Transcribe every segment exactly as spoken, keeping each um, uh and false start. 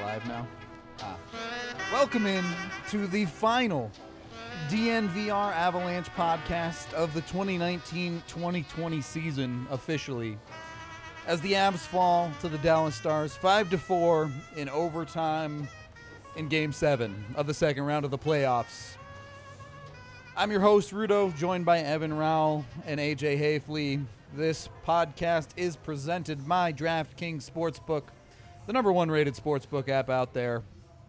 live now? Ah. Welcome in to the final D N V R Avalanche podcast of the twenty nineteen twenty twenty season officially, as the Avs fall to the Dallas Stars five to four in overtime in Game seven of the second round of the playoffs. I'm your host, Rudo, joined by Evan Rowell and A J Hafley. This podcast is presented by DraftKings Sportsbook, the number one rated sportsbook app out there.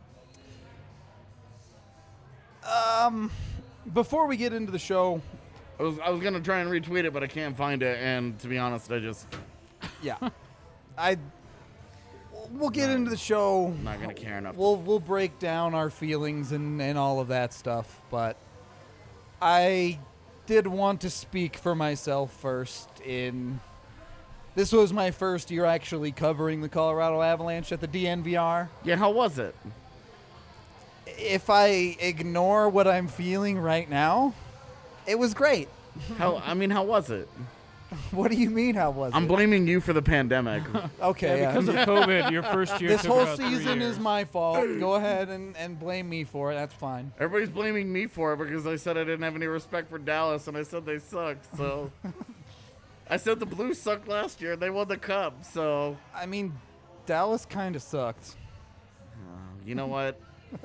Um, before we get into the show, I was I was gonna try and retweet it, but I can't find it. And to be honest, I just yeah, I we'll get into the show. I'm not gonna care enough. We'll we'll break down our feelings and and all of that stuff, but I did want to speak for myself first. In this was my first year actually covering the Colorado Avalanche at the D N V R. Yeah, how was it? If I ignore what I'm feeling right now, it was great. How I mean, how was it? What do you mean, how was I'm it? blaming you for the pandemic. Okay, Yeah, because yeah. of COVID, your first year This took whole about three season years. is my fault. Go ahead and, and blame me for it. That's fine. Everybody's blaming me for it because I said I didn't have any respect for Dallas, and I said they sucked. So I said the Blues sucked last year. They won the cup. So I mean, Dallas kind of sucked. you know what?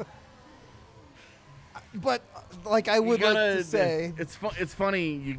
But, like, I You would gotta- like to say, it's fu- it's funny. You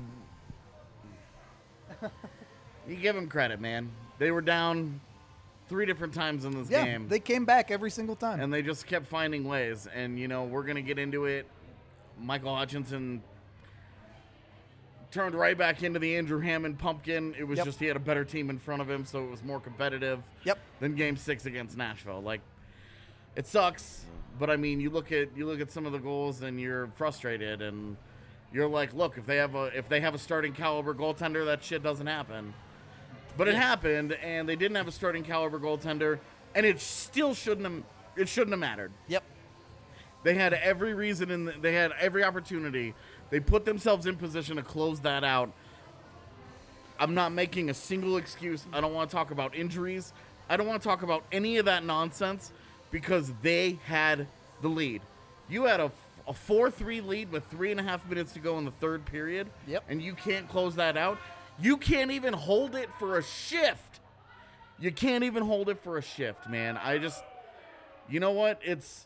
you give them credit, man. They were down three different times in this yeah, game. they came back every single time. And they just kept finding ways. And, you know, we're going to get into it. Michael Hutchinson turned right back into the Andrew Hammond pumpkin. It was Yep. just he had a better team in front of him, so it was more competitive Yep. than Game six against Nashville. Like, it sucks, but, I mean, you look at you look at some of the goals and you're frustrated. And you're like, look, if they have a if they have a starting caliber goaltender, that shit doesn't happen. But it happened, and they didn't have a starting caliber goaltender, and it still shouldn't have it shouldn't have mattered. Yep. They had every reason, and the, they had every opportunity. They put themselves in position to close that out. I'm not making a single excuse. I don't want to talk about injuries. I don't want to talk about any of that nonsense because they had the lead. You had a, a four three lead with three and a half minutes to go in the third period, Yep. and you can't close that out. You can't even hold it for a shift. You can't even hold it for a shift, man. I just, you know what? It's,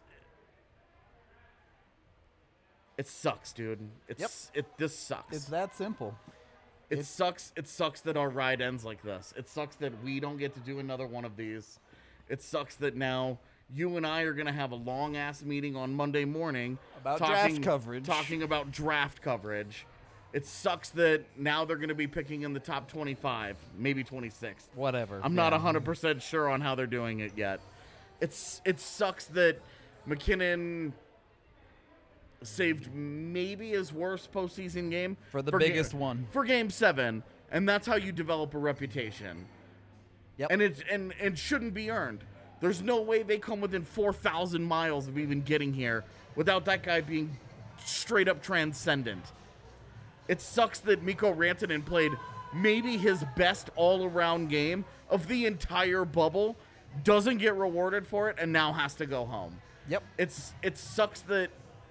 it sucks, dude. It's, it. This sucks. It's that simple. It it's- sucks. It sucks that our ride ends like this. It sucks that we don't get to do another one of these. It sucks that now you and I are gonna have a long ass meeting on Monday morning About draft coverage. talking about draft coverage. It sucks that now they're going to be picking in the top twenty-five, maybe twenty-six. Whatever. I'm Yeah. not one hundred percent sure on how they're doing it yet. It's It sucks that McKinnon saved maybe his worst postseason game. For the ga- biggest one. For Game seven, and that's how you develop a reputation. Yep. And it and, and shouldn't be earned. There's no way they come within four thousand miles of even getting here without that guy being straight up transcendent. It sucks that Mikko Rantanen played maybe his best all-around game of the entire bubble, doesn't get rewarded for it, and now has to go home. Yep. It's It sucks that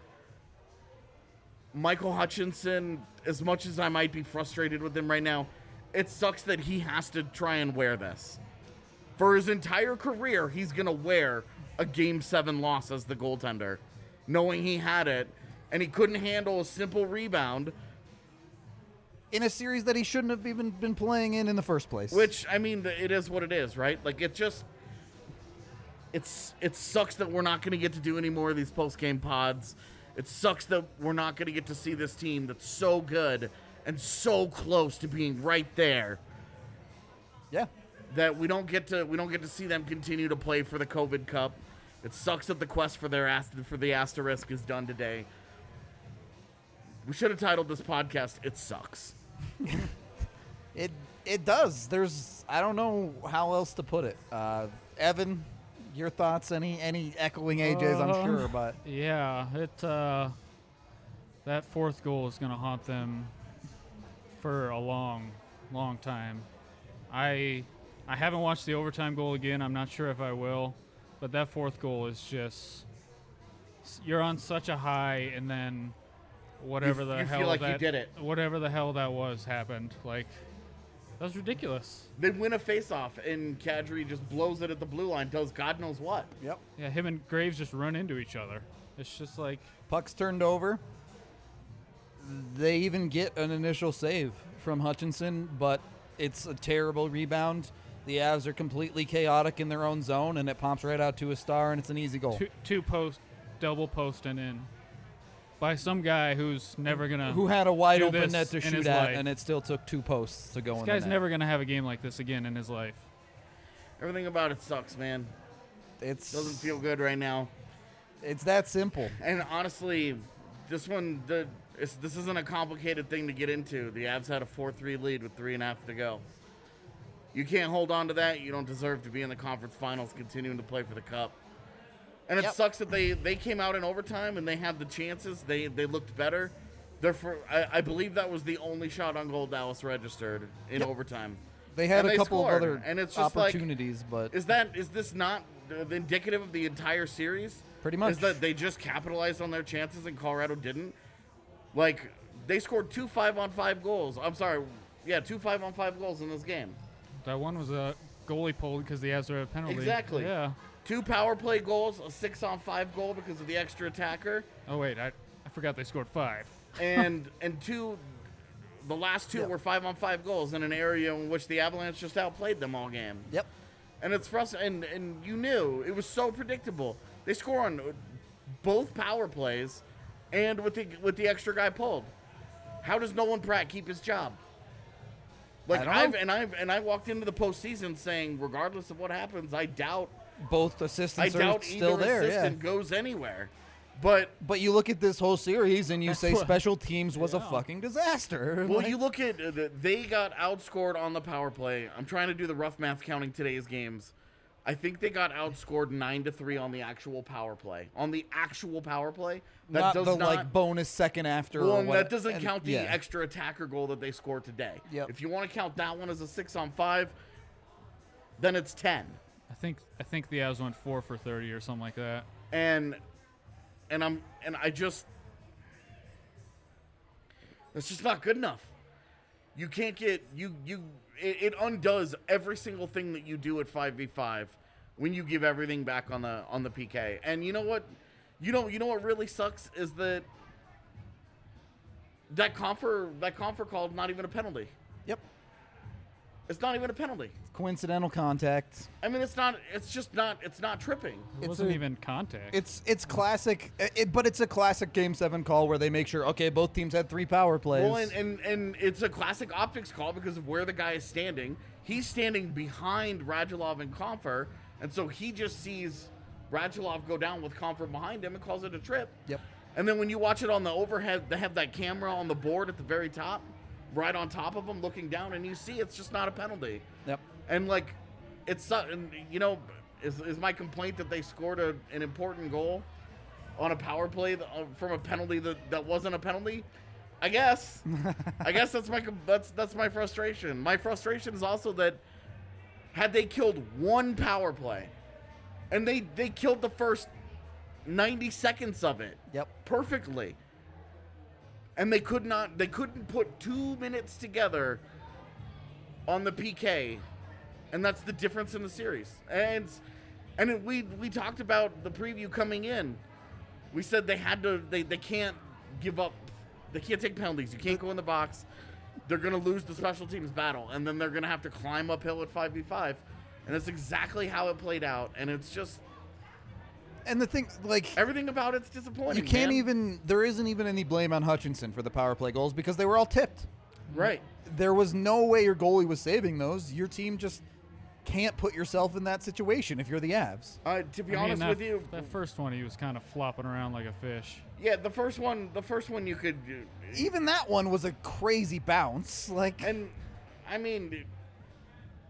Michael Hutchinson, as much as I might be frustrated with him right now, it sucks that he has to try and wear this. For his entire career, he's going to wear a Game seven loss as the goaltender, knowing he had it, and he couldn't handle a simple rebound. In a series that he shouldn't have even been playing in in the first place. Which, I mean, it is what it is, right? Like, it just, it's it sucks that we're not going to get to do any more of these post-game pods. It sucks that we're not going to get to see this team that's so good and so close to being right there Yeah. that we don't get to we don't get to see them continue to play for the COVID Cup. It sucks that the quest for their ast- for the asterisk is done today. We should have titled this podcast "It Sucks." It it does. There's I don't know how else to put it. Uh, Evan, your thoughts? Any any echoing A J's? I'm Um, sure, but Yeah, it uh, that fourth goal is going to haunt them for a long, long time. I I haven't watched the overtime goal again. I'm not sure if I will. but that fourth goal is just you're on such a high, and then whatever You- the you hell feel like you that did it. whatever the hell that was happened. Like that was ridiculous. They win a face-off, and Kadri just blows it at the blue line, does God knows what. Yep. Yeah, him and Graves just run into each other. It's just like Puck's turned over. They even get an initial save from Hutchinson, but it's a terrible rebound. The Avs are completely chaotic in their own zone, and it pops right out to a star, and it's an easy goal. two, two post, double post and in by some guy who's never gonna. Who had a wide do open this net to in shoot his at, life. and it still took two posts to go This in guy's the net. never gonna have a game like this again in his life. Everything about it sucks, man. It's Doesn't feel good right now. It's that simple. And honestly, this one, the it's, this isn't a complicated thing to get into. The Avs had a four three lead with three and a half to go. You can't hold on to that. You don't deserve to be in the conference finals continuing to play for the cup. And it Yep. sucks that they, they came out in overtime and they had the chances. They they looked better. Therefore, I, I believe that was the only shot on goal Dallas registered in Yep. overtime. They had And a they couple scored, of other and it's just like, opportunities, but Is that is this not uh, indicative of the entire series? Pretty much. Is that they just capitalized on their chances and Colorado didn't? Like, they scored two five on five goals. I'm sorry, yeah, two five on five goals in this game. That one was a goalie pulled because the Avs are a penalty. Exactly. Yeah. Two power play goals, a six on five goal because of the extra attacker, Oh wait, I I forgot they scored five. and and two, the last two Yeah. were five on five goals in an area in which the Avalanche just outplayed them all game. yep. And it's frustrating, and, and you knew it was so predictable. They score on both power plays, and with the with the extra guy pulled. How does Nolan Pratt keep his job? Like I don't I've know. and I've and I walked into the postseason saying, regardless of what happens, I doubt Both I assistants are doubt still either there. Yeah. assistant goes anywhere. But But you look at this whole series and you That's say what- special teams was a Yeah. fucking disaster. well, Like, you look at uh, the, they got outscored on the power play. I'm trying to do the rough math counting today's games. I think they got outscored nine to three on the actual power play. On the actual power play, that not does the not like bonus second after. Well, or and what, that doesn't and- count the yeah. extra attacker goal that they scored today. Yep. If you want to count that one as a six on five, then it's ten. I think I think the Avs went four for thirty or something like that. And and I'm and I just that's just not good enough. You can't get you you it, it undoes every single thing that you do at five v five when you give everything back on the on the P K. And you know what? You know you know what really sucks is that that confer that confer called not even a penalty. Yep. It's not even a penalty. Coincidental contact. I mean, it's not. It's just not. It's not tripping. It It's wasn't a- even contact. It's it's classic, it, but it's a classic Game Seven call where they make sure okay, both teams had three power plays. Well, and, and and it's a classic optics call because of where the guy is standing. He's standing behind Radulov and Confer, and so he just sees Radulov go down with Confer behind him and calls it a trip. Yep. And then when you watch it on the overhead, they have that camera on the board at the very top, right on top of him, looking down, and you see it's just not a penalty. Yep. And like, it's uh, and you know, is, is my complaint that they scored a, an important goal on a power play that, uh, from a penalty that, that wasn't a penalty? I guess. I guess that's my com- that's that's my frustration. My frustration is also that had they killed one power play, and they they killed the first ninety seconds of it Yep. perfectly, and they could not they couldn't put two minutes together on the P K, and that's the difference in the series. And and it, we we talked about the preview coming in. We said they had to they, they can't give up. They can't take penalties. You can't go in the box. They're going to lose the special teams battle, and then they're going to have to climb uphill at five v five. And that's exactly how it played out. And it's just And the thing, like, everything about it's disappointing. you can't man. even. There isn't even any blame on Hutchinson for the power play goals because they were all tipped. right. There was no way your goalie was saving those. Your team just can't put yourself in that situation if you're the Avs. Uh, to be I mean, honest that, with you, that first one he was kind of flopping around like a fish. yeah, the first one, the first one you could, Even that one was a crazy bounce. Like, and I mean,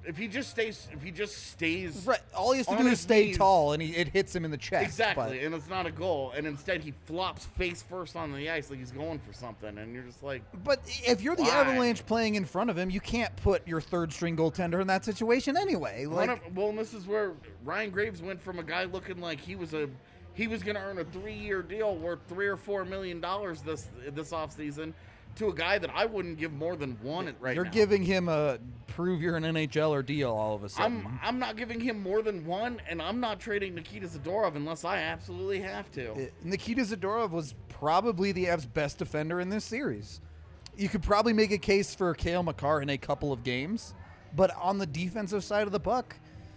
if he just stays, if he just stays, Right. All he has to on do is his stay knees- tall, and he, it hits him in the chest. exactly, but- and it's not a goal, and instead he flops face first on the ice like he's going for something, and you're just like, But if you're the Why? Avalanche playing in front of him, you can't put your third string goaltender in that situation anyway. One Like, of- well, and this is where Ryan Graves went from a guy looking like he was a he was going to earn a three-year deal worth three or four million dollars this this offseason to a guy that I wouldn't give more than one right you're now. giving him a prove you're an N H L or deal all of a sudden. I'm I'm not giving him more than one, and I'm not trading Nikita Zadorov unless I absolutely have to. Uh, Nikita Zadorov was probably the Avs' best defender in this series. You could probably make a case for Cale Makar in a couple of games, but on the defensive side of the puck,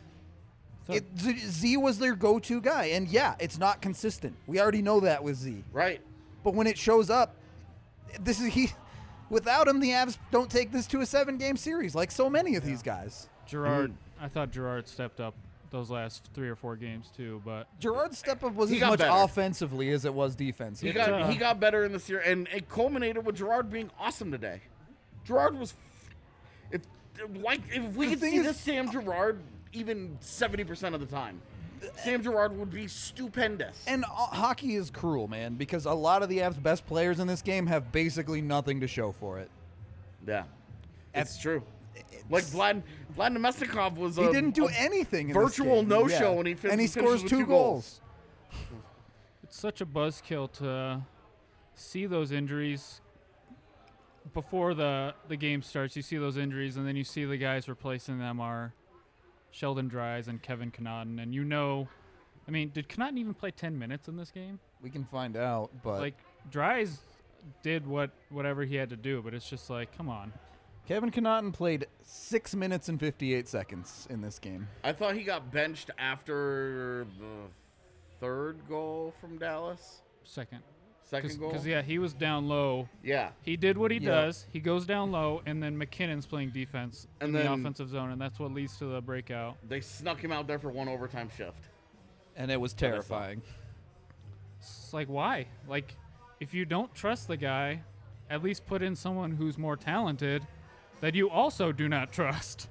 So- it, Z, Z was their go-to guy. And yeah, it's not consistent. We already know that with Z. Right. But when it shows up, this is he. Without him, the Avs don't take this to a seven-game series like so many of these guys. Gerard, Mm-hmm. I thought Gerard stepped up those last three or four games too, but Gerard's step up was He as got much better. offensively as it was He defensively. got uh, he got better in this year, and it culminated with Gerard being awesome today. Gerard was, if like if we The could thing see is- this Sam Gerard even seventy percent of the time, Sam Gerard would be stupendous. And uh, hockey is cruel, man, because a lot of the Avs' best players in this game have basically nothing to show for it. Yeah, That's- it's true. Like Vlad Vlad Nemestikov was He a, didn't do a anything. In this virtual game. no-show, Yeah. and he fin- and he finishes scores with two two goals. it's such a buzzkill to see those injuries before the the game starts. You see those injuries, and then you see the guys replacing them are Sheldon Dries and Kevin Connaughton, and you know, I mean, did Connaughton even play ten minutes in this game? We can find out, but Like Dries did what whatever he had to do, but it's just like, come on. Kevin Connaughton played six minutes and fifty-eight seconds in this game. I thought he got benched after the third goal from Dallas. Second, Second goal. because yeah, he was down low. Yeah. He did what he Yeah. does. He goes down low, and then McKinnon's playing defense And in then- the offensive zone, and that's what leads to the breakout. They snuck him out there for one overtime shift. And it was I saw. terrifying. It's like, why? Like, if you don't trust the guy, at least put in someone who's more talented that you also do not trust.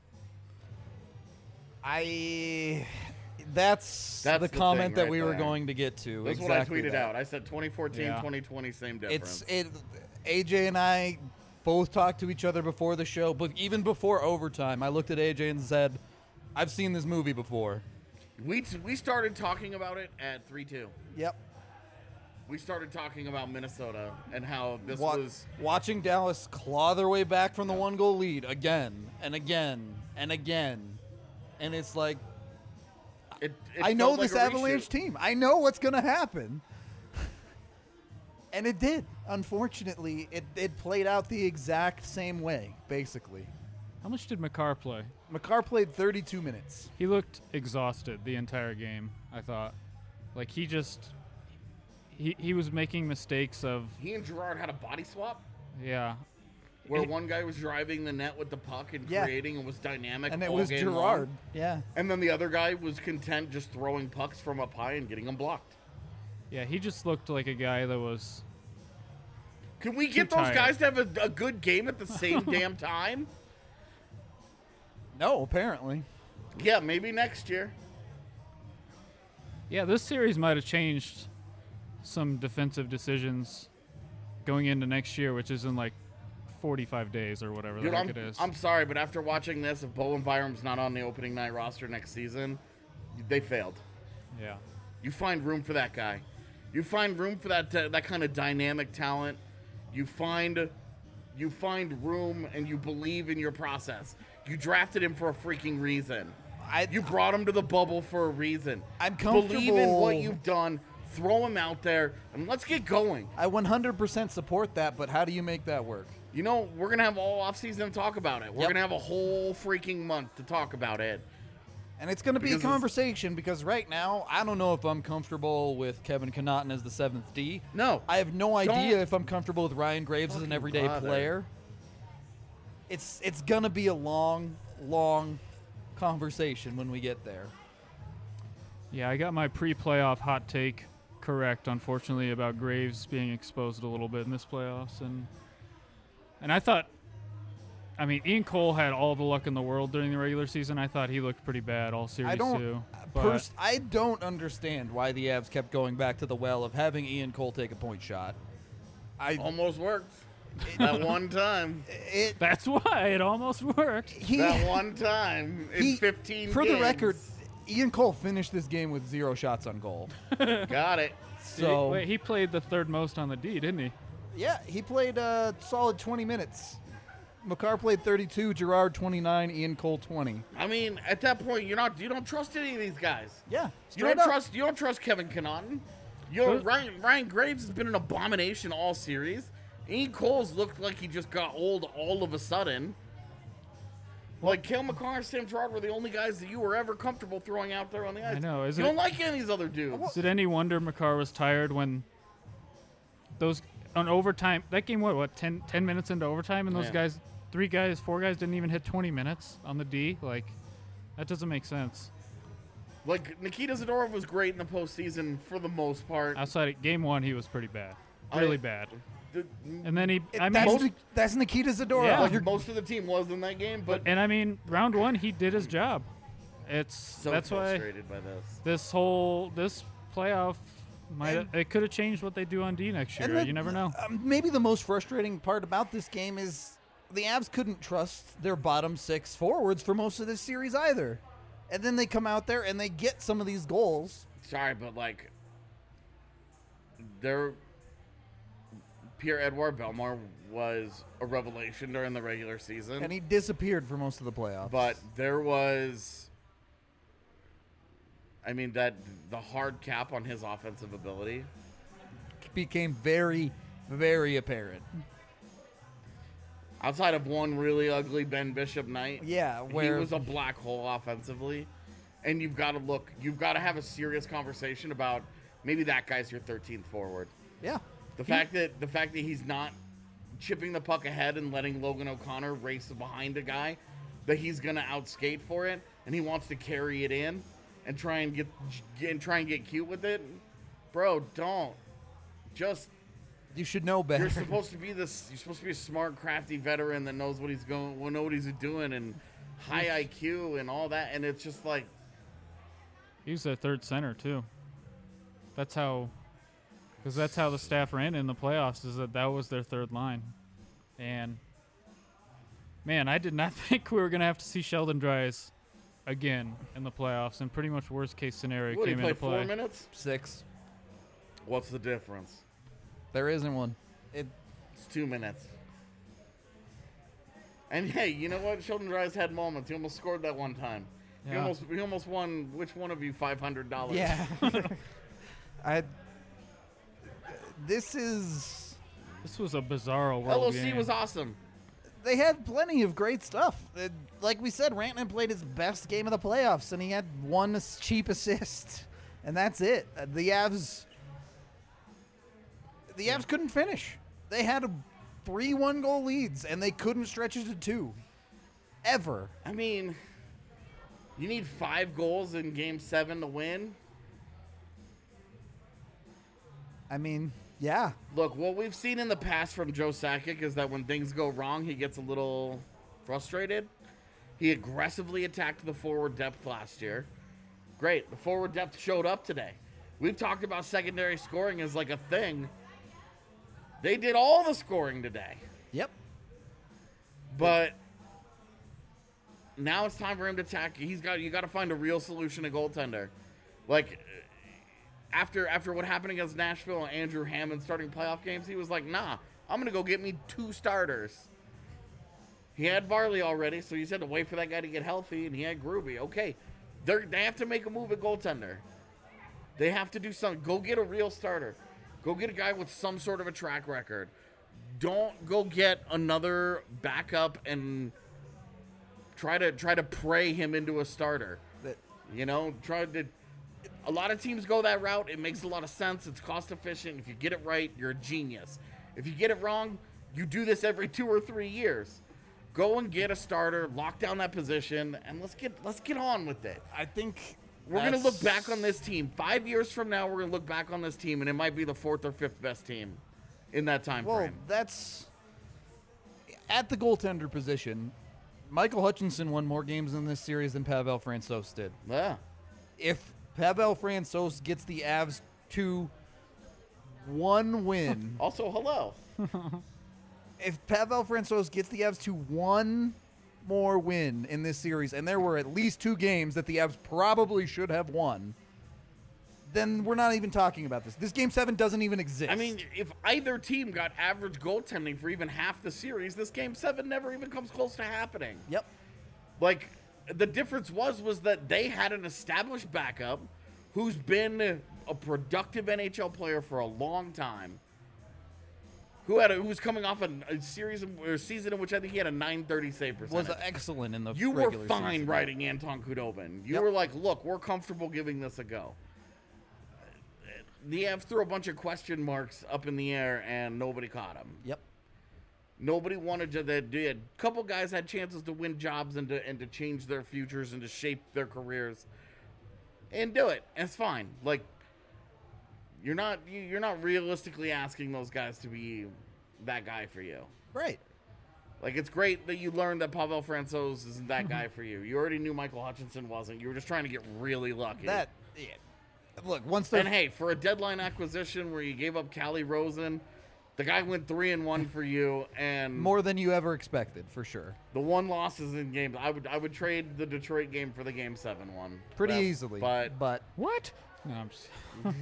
I. That's, That's the the comment thing that right we were there. going to get to. That's exactly what I tweeted that. out. I said twenty fourteen, Yeah. twenty twenty, same difference. It's it. A J and I both talked to each other before the show, but even before overtime, I looked at A J and said, "I've seen this movie before." we t- we started talking about it at three two. Yep. We started talking about Minnesota and how this Wa- was watching Dallas claw their way back from the one goal lead again and again and again, and it's like it, it I know felt like this a Avalanche reshoot. team. I know what's gonna happen, and it did. Unfortunately, it it played out the exact same way, basically. How much did Makar play? Makar played thirty-two minutes. He looked exhausted the entire game, I thought. Like, he just... He, he was making mistakes of... He and Gerard had a body swap Yeah. where It- one guy was driving the net with the puck and Yeah. creating and was dynamic, And it all was game long. Gerard. Yeah. And then the other guy was content just throwing pucks from up high and getting them blocked. Yeah, he just looked like a guy that was... Can we get Too those tired. guys to have a, a good game at the same damn time? No, apparently. Yeah, maybe next year. Yeah, this series might have changed some defensive decisions going into next year, which is in like forty-five days or whatever Dude, the I'm, heck it is. I'm sorry, but after watching this, if Bowen Byram's not on the opening night roster next season, they failed. yeah. You find room for that guy. You find room for that uh, that kind of dynamic talent. You find you find room and you believe in your process. You drafted him for a freaking reason. I You brought him to the bubble for a reason. I'm Believe in what comfortable- you've done. Throw him out there and let's get going. I one hundred percent support that, but how do you make that work? You know, we're going to have all offseason to talk about it. We're Yep. going to have a whole freaking month to talk about it. And it's going to be Because a it's- conversation because right now, I don't know if I'm comfortable with Kevin Connaughton as the seventh D. No. I have no idea Don't if I'm comfortable with Ryan Graves as an fucking everyday bother. player. It's it's going to be a long, long conversation when we get there. Yeah, I got my pre-playoff hot take correct, unfortunately, about Graves being exposed a little bit in this playoffs, and and I thought I mean, Ian Cole had all the luck in the world during the regular season. I thought he looked pretty bad all series I don't. too. Pers- I don't understand why the Avs kept going back to the well of having Ian Cole take a point shot. I Almost worked. That one time. it That's why it almost worked. he That one time in he- fifteen for games. the record, Ian Cole finished this game with zero shots on goal. Got it. So Wait, he played the third most on the D, didn't he? yeah, he played a solid twenty minutes. Makar played thirty-two, Gerard twenty-nine, Ian Cole twenty. I mean, at that point, you're not. You don't trust any of these guys. Yeah, You straight don't up. trust. You don't trust Kevin Connaughton. Yo, Who- Ryan Ryan Graves has been an abomination all series. Ian Cole's looked like he just got old all of a sudden. Like Cale Makar and Sam Gerard were the only guys that you were ever comfortable throwing out there on the ice. I know, You isn't don't it- like any of these other dudes. Is it any wonder Makar was tired when those on overtime? That game, what, what, ten, ten minutes into overtime, and those Yeah. guys, three guys, four guys didn't even hit twenty minutes on the D. Like, that doesn't make sense. Like Nikita Zadorov was great in the postseason for the most part. Outside of game one, he was pretty bad, I- really bad. The- And then he, It- I mean, that's, most- Nik- that's Nikita Zadorov. Yeah. like You're- most of the team was in that game, but and I mean, round one, he did his job. It's so that's why frustrated by this. this whole this playoff might And- it could have changed what they do on D next year. And the- you never know. Um, maybe the most frustrating part about this game is the Avs couldn't trust their bottom six forwards for most of this series either. And then they come out there and they get some of these goals. Sorry, but like, there, Pierre-Edouard Bellemare was a revelation during the regular season, And he disappeared for most of the playoffs. but there was, I mean, that the hard cap on his offensive ability. became very, very apparent. Outside of one really ugly Ben Bishop night, Yeah, where he was a black hole offensively, and you've got to look, you've got to have a serious conversation about maybe that guy's your thirteenth forward. yeah. The fact that the fact that he's not chipping the puck ahead and letting Logan O'Connor race behind a guy that he's gonna outskate for it, and he wants to carry it in and try and get, get and try and get cute with it, bro. Don't just. You should know better. You're supposed to be this. You're supposed to be a smart, crafty veteran that knows what he's going, will know what he's doing, and high I Q and all that. And it's just like, He was their third center too. That's how, because that's how the staff ran in the playoffs. Is that that was their third line, and man, I did not think we were gonna have to see Sheldon Dries again in the playoffs. And pretty much worst case scenario what, he came played into four play. minutes. Six. What's the difference? There isn't one. It, It's two minutes. And hey, you know what? Sheldon Dries had moments. He almost scored that one time. He Yeah. almost he almost won. Which one of you five hundred dollars? yeah. I. This is. This was a bizarro world L O C game. was awesome. They had plenty of great stuff. Uh, like we said, Rantanen played his best game of the playoffs, and he had one as- cheap assist, and that's it. Uh, the Avs. The Avs couldn't finish. They had a three one goal leads, and they couldn't stretch it to two. Ever. I mean, you need five goals in Game Seven to win. I mean, yeah. Look, what we've seen in the past from Joe Sakic is that when things go wrong, he gets a little frustrated. He aggressively attacked the forward depth last year. Great, the forward depth showed up today. We've talked about secondary scoring as like a thing. They did all the scoring today. Yep. But now it's time for him to attack. He's got you got to find a real solution to goaltender. Like after after what happened against Nashville and Andrew Hammond starting playoff games, he was like, "Nah, I'm gonna go get me two starters." He had Varley already, so he said to wait for that guy to get healthy, and he had Gruby. Okay, they they have to make a move at goaltender. They have to do something. Go get a real starter. Go get a guy with some sort of a track record. Don't go get another backup and try to try to pray him into a starter. That- You know, try to. A lot of teams go that route. It makes a lot of sense. It's cost efficient. If you get it right, you're a genius. If you get it wrong, you do this every two or three years. Go and get a starter, lock down that position, and let's get let's get on with it. I think We're gonna look that's- back on this team five years from now. We're gonna look back on this team, and it might be the fourth or fifth best team in that time Well, frame. that's. At the goaltender position, Michael Hutchinson won more games in this series than Pavel Francouz did. Yeah. If Pavel Francouz gets the Avs to one win, Also, hello. if Pavel Francouz gets the Avs to one more win in this series, and there were at least two games that the Avs probably should have won, then we're not even talking about this. This game seven doesn't even exist. I mean, if either team got average goaltending for even half the series, this game seven never even comes close to happening. yep. Like, the difference was was that they had an established backup who's been a productive N H L player for a long time, who had a, who was coming off a, a series of, or season in which I think he had a nine thirty save percentage. Was excellent in the You were regular fine season. riding Anton Khudobin. You Yep. were like, look, we're comfortable giving this a go. The Avs threw a bunch of question marks up in the air, and nobody caught them. Yep. Nobody wanted to. They did. A couple guys had chances to win jobs and to and to change their futures and to shape their careers, and do it. And it's fine. Like, you're not you- you're not realistically asking those guys to be that guy for you. Right. Like, it's great that you learned that Pavel Francouz isn't that guy for you. You already knew Michael Hutchinson wasn't. You were just trying to get really lucky. That. Yeah. Look, once they're And hey, for a deadline acquisition where you gave up Callie Rosen, the guy went three and one for you, and more than you ever expected, for sure. the one loss is in games. I would I would trade the Detroit game for the game seven one Pretty But- easily. But but What? No, I'm just.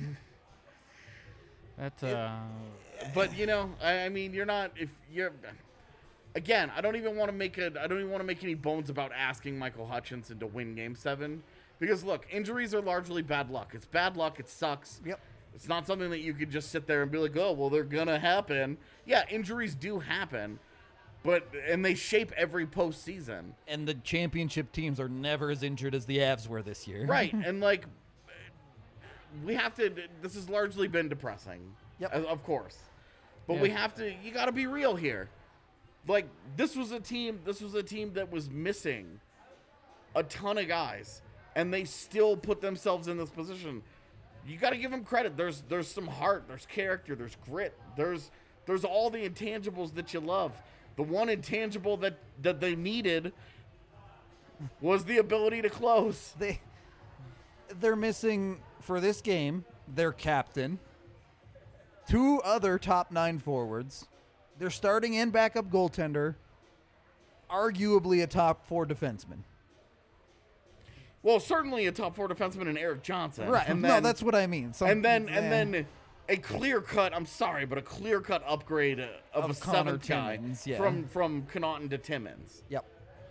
That uh, but you know, I, I mean, you're not if you're. Again, I don't even want to make a. I don't even want to make any bones about asking Michael Hutchinson to win Game Seven, because look, injuries are largely bad luck. It's bad luck. It sucks. Yep. It's not something that you could just sit there and be like, oh, well, they're gonna happen. Yeah, injuries do happen, but and they shape every postseason. and the championship teams are never as injured as the Avs were this year. Right, and like, we have to. This has largely been depressing. Yep. Of of course, but Yeah. we have to. You got to be real here. Like, this was a team. This was a team that was missing a ton of guys, and they still put themselves in this position. You got to give them credit. There's there's some heart. There's character. There's grit. There's there's all the intangibles that you love. The one intangible that that they needed was the ability to close. They they're missing for this game their captain, two other top nine forwards, their starting and backup goaltender, arguably a top four defenseman. Well, certainly a top four defenseman in Eric Johnson. Right. And no, then, that's what I mean. Some- and then eh. and then a clear cut. I'm sorry, but a clear cut upgrade uh, of, Of a Connor seventh guy Timmins, yeah. from from Connaughton to Timmins. Yep.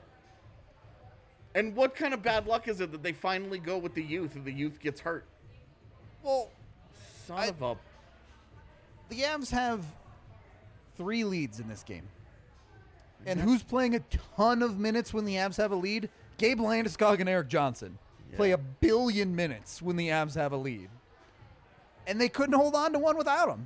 And what kind of bad luck is it that they finally go with the youth and the youth gets hurt? Well, Son I- of a. the Avs have three leads in this game. And who's playing a ton of minutes when the Avs have a lead? Gabe Landeskog and Eric Johnson play Yeah. a billion minutes when the Avs have a lead. And they couldn't hold on to one without him.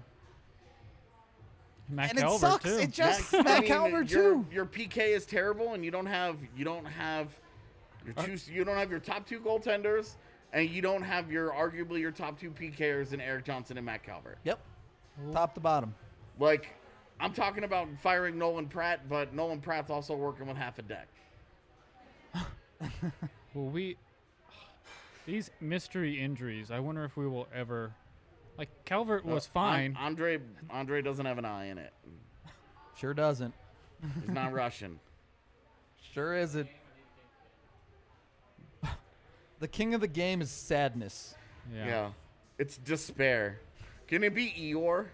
Matt and it Calvert, sucks. too. It just I Matt mean, Calvert your, too. Your P K is terrible, and you don't have you don't have your two you don't have your top two goaltenders, and you don't have your arguably your top two P Kers in Eric Johnson and Matt Calvert. Yep. Top to bottom. Like, I'm talking about firing Nolan Pratt, but Nolan Pratt's also working with half a deck. Well, we these mystery injuries. I wonder if we will ever. Like Calvert was Uh, fine. An- Andre Andre doesn't have an eye in it. Sure doesn't. He's not Russian. Sure isn't. The king of the game is sadness. yeah. Yeah. It's despair. Can it be Eeyore?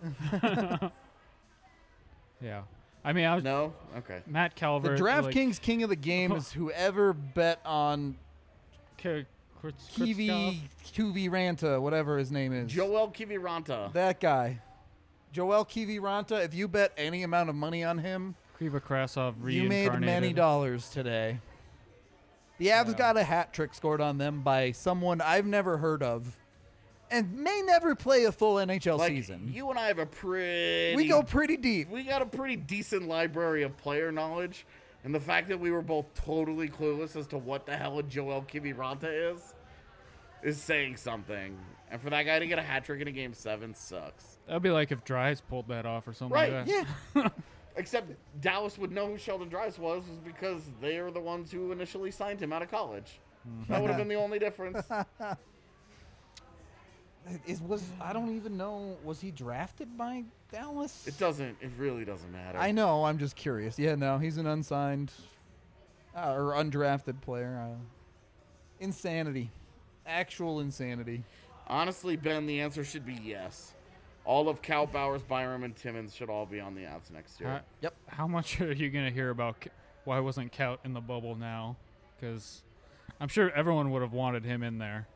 Yeah. I mean, I was No? Okay. Matt The Calvert. like, DraftKings king of the game is whoever bet on K- Kurtz- Kiwi Kurtzkov? Tuvi Ranta, whatever his name is. Joel Kiviranta. That guy. Joel Kiviranta, if you bet any amount of money on him, Kriva Krasov you made many reincarnated. dollars today. The Avs Yeah. got a hat trick scored on them by someone I've never heard of and may never play a full N H L Like, season. you and I have a pretty... We go pretty deep. We got a pretty decent library of player knowledge, and the fact that we were both totally clueless as to what the hell a Joel Kiviranta is, is saying something. And for that guy to get a hat trick in a game seven sucks. That'd be like if Dries pulled that off or something Right, like that. Yeah. Except Dallas would know who Sheldon Dries was, was because they are the ones who initially signed him out of college. That would have been the only difference. Is was I don't even know. Was he drafted by Dallas? It doesn't. It really doesn't matter. I know. I'm just curious. Yeah, no, he's an unsigned uh, or undrafted player. Uh, insanity, actual insanity. Honestly, Ben, the answer should be yes. All of Cal, Bowers, Byram, and Timmons should all be on the outs next year. Uh, Yep. How much are you going to hear about K- why wasn't Kaut in the bubble now? Because I'm sure everyone would have wanted him in there.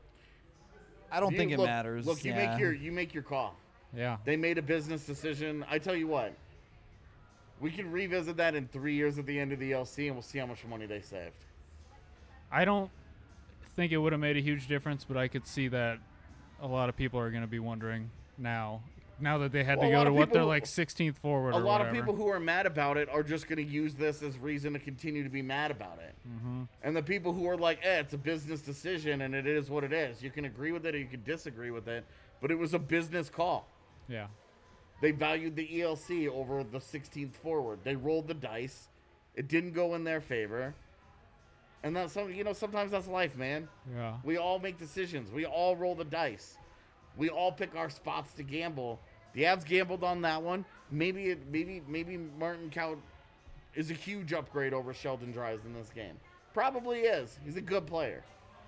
I don't You- think it look- matters. Look, you yeah. make your you make your call. Yeah. They made a business decision. I tell you what, we can revisit that in three years at the end of the L C, and we'll see how much money they saved. I don't think it would have made a huge difference, but I could see that a lot of people are going to be wondering now. Now that they had Well, a to go lot to of what people they're who- like sixteenth forward A or lot whatever. of people who are mad about it are just going to use this as reason to continue to be mad about it. Mm-hmm. And the people who are like, eh, it's a business decision and it is what it is. You can agree with it or you can disagree with it, but it was a business call. Yeah. They valued the E L C over the sixteenth forward. They rolled the dice. It didn't go in their favor. And that's some, you know, sometimes that's life, man. Yeah. We all make decisions. We all roll the dice. We all pick our spots to gamble. The Avs gambled on that one. Maybe it, maybe maybe Martin Kaut is a huge upgrade over Sheldon Dries in this game. Probably is. He's a good player.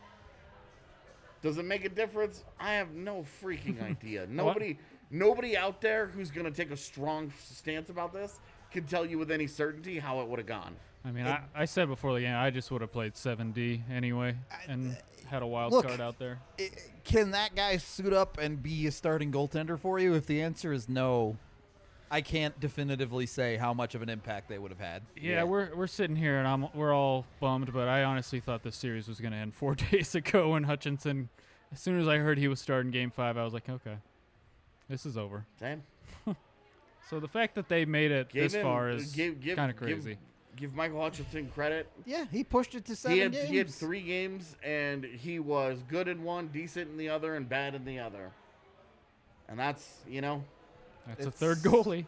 Does it make a difference? I have no freaking idea. Nobody nobody out there who's going to take a strong stance about this can tell you with any certainty how it would have gone. I mean, I, I said before the game, I just would have played seven D anyway and had a wild Look, card out there. I- Can that guy suit up and be a starting goaltender for you? If the answer is no, I can't definitively say how much of an impact they would have had. Yeah, Yeah. we're we're sitting here and I'm we're all bummed, but I honestly thought this series was going to end four days ago. And Hutchinson, as soon as I heard he was starting Game Five, I was like, okay, this is over. Same. So the fact that they made it Gave this him- far is give- give- kind of give- crazy. Give Michael Hutchinson credit. Yeah, he pushed it to seven He had games. he had three games and he was good in one, decent in the other, and bad in the other. And that's you know, That's a it's- third goalie.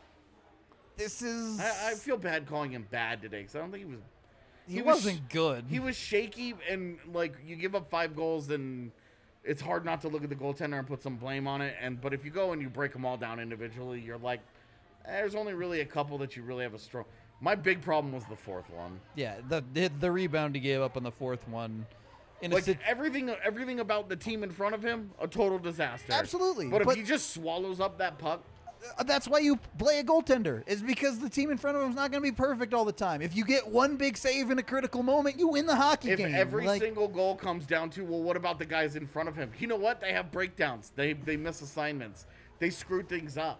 This is. I, I feel bad calling him bad today because I don't think he was. he, he was wasn't good. He was shaky and like you give up five goals and it's hard not to look at the goaltender and put some blame on it. And but if you go and you break them all down individually, you're like, eh, there's only really a couple that you really have a strong. My big problem was the fourth one. Yeah, the, the the rebound he gave up on the fourth one. In a Like sit- everything, everything about the team in front of him, a total disaster. Absolutely, But if but- he just swallows up that puck, Uh, that's why you play a goaltender, is because the team in front of him is not going to be perfect all the time. If you get one big save in a critical moment, you win the hockey if game. every Like, single goal comes down to, well, what about the guys in front of him? You know what? They have breakdowns. They they miss assignments. They screw things up.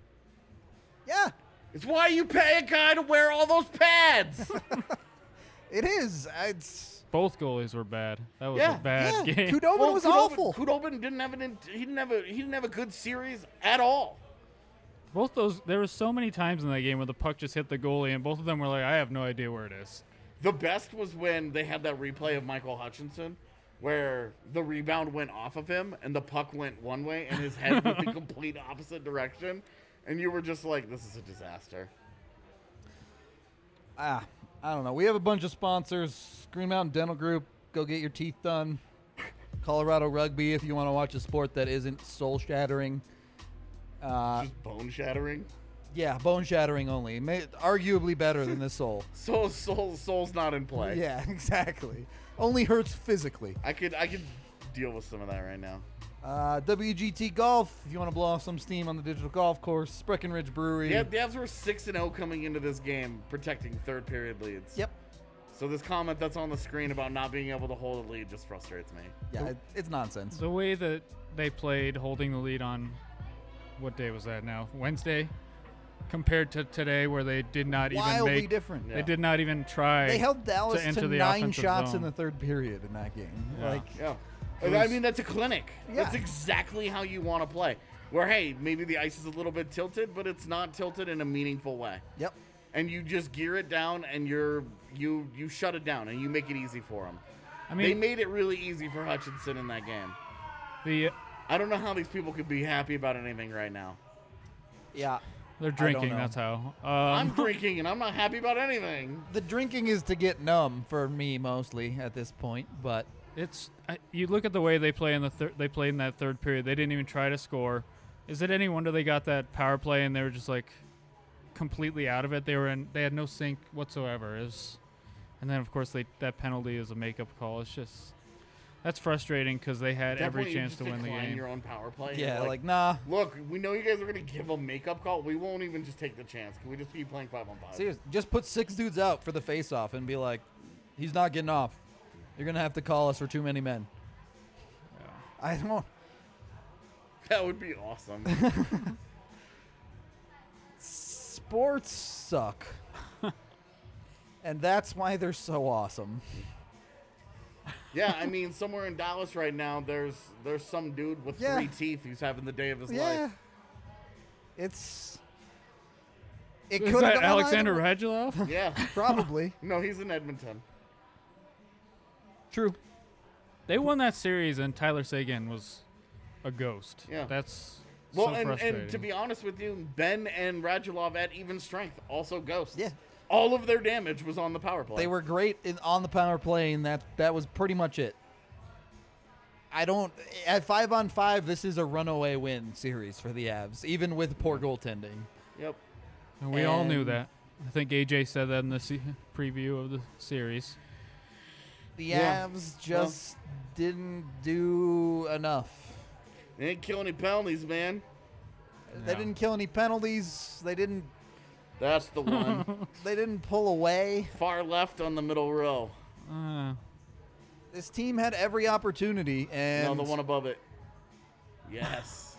yeah, It's why you pay a guy to wear all those pads. it is. It's Both goalies were bad. That was Yeah, a bad yeah. game. Kudobin Well, was Khudobin- awful. Khudobin didn't have an. in- He didn't have a. He didn't have a good series at all. Both those, there were so many times in that game where the puck just hit the goalie, and both of them were like, I have no idea where it is. The best was when they had that replay of Michael Hutchinson, where the rebound went off of him and the puck went one way and his head went the complete opposite direction, and you were just like, "This is a disaster." ah, I don't know. We have a bunch of sponsors. Green Mountain Dental Group. Go get your teeth done. Colorado Rugby, if you want to watch a sport that isn't soul shattering. Uh, Just bone shattering. yeah, bone shattering only. May, arguably better than the soul. Soul, soul, soul's not in play. Yeah, exactly. Only hurts physically. I could, I could deal with some of that right now. Uh, W G T Golf, if you want to blow off some steam on the digital golf course. Breckenridge Brewery. Yeah, the Avs were six and zero coming into this game, protecting third period leads. Yep. So this comment that's on the screen about not being able to hold a lead just frustrates me. Yeah, it, it's nonsense. The way that they played holding the lead on, what day was that now? Wednesday? Compared to today where they did not even Wildly make, different. Yeah. they did not even try. They held Dallas to enter to the nine offensive shots zone. in the third period in that game. Yeah. Like, Yeah. It I was- mean, that's a clinic. Yeah. That's exactly how you want to play. Where, hey, maybe the ice is a little bit tilted, but it's not tilted in a meaningful way. yep. And you just gear it down and you're you you shut it down and you make it easy for them. I They mean, made it really easy for Hutchinson in that game. the I don't know how these people could be happy about anything right now. Yeah. They're drinking. That's how. Um, I'm drinking, and I'm not happy about anything. The drinking is to get numb for me mostly at this point, but It's I, you look at the way they play in the thir- they played in that third period. They didn't even try to score. Is it any wonder they got that power play and they were just like completely out of it? They were in. They had no sync whatsoever. It was, and then of course they that penalty is a makeup call. It's just that's frustrating because they had At that every point, you chance just to win the decline game. your own power play. yeah, You're like, nah. look, we know you guys are going to give a makeup call. We won't even just take the chance. Can we just keep playing five on five? Seriously, just put six dudes out for the face-off and be like, he's not getting off. You're gonna have to call us for too many men. Yeah. I don't. That would be awesome. Sports suck, and that's why they're so awesome. Yeah, I mean, somewhere in Dallas right now, there's there's some dude with Yeah. three teeth who's having the day of his Yeah, life. it's. It Is could have that Alexander Radulov? Yeah. Probably No, he's in Edmonton. true. They won that series, and Tyler Seguin was a ghost. Yeah. That's Well, so and, frustrating. and to be honest with you, Ben and Radulov at even strength, also ghosts. Yeah. All of their damage was on the power play. They were great in, on the power play, and that that was pretty much it. I don't at five on five. This is a runaway win series for the Avs, even with poor goaltending. Yep. And we all knew and- that. I think A J said that in the se- preview of the series. The Yeah. Avs just didn't do enough. They didn't kill any penalties, man. They Yeah. didn't kill any penalties. They didn't. That's the one. They didn't pull away. Far left on the middle row. Uh, This team had every opportunity, and No, the one above it. Yes.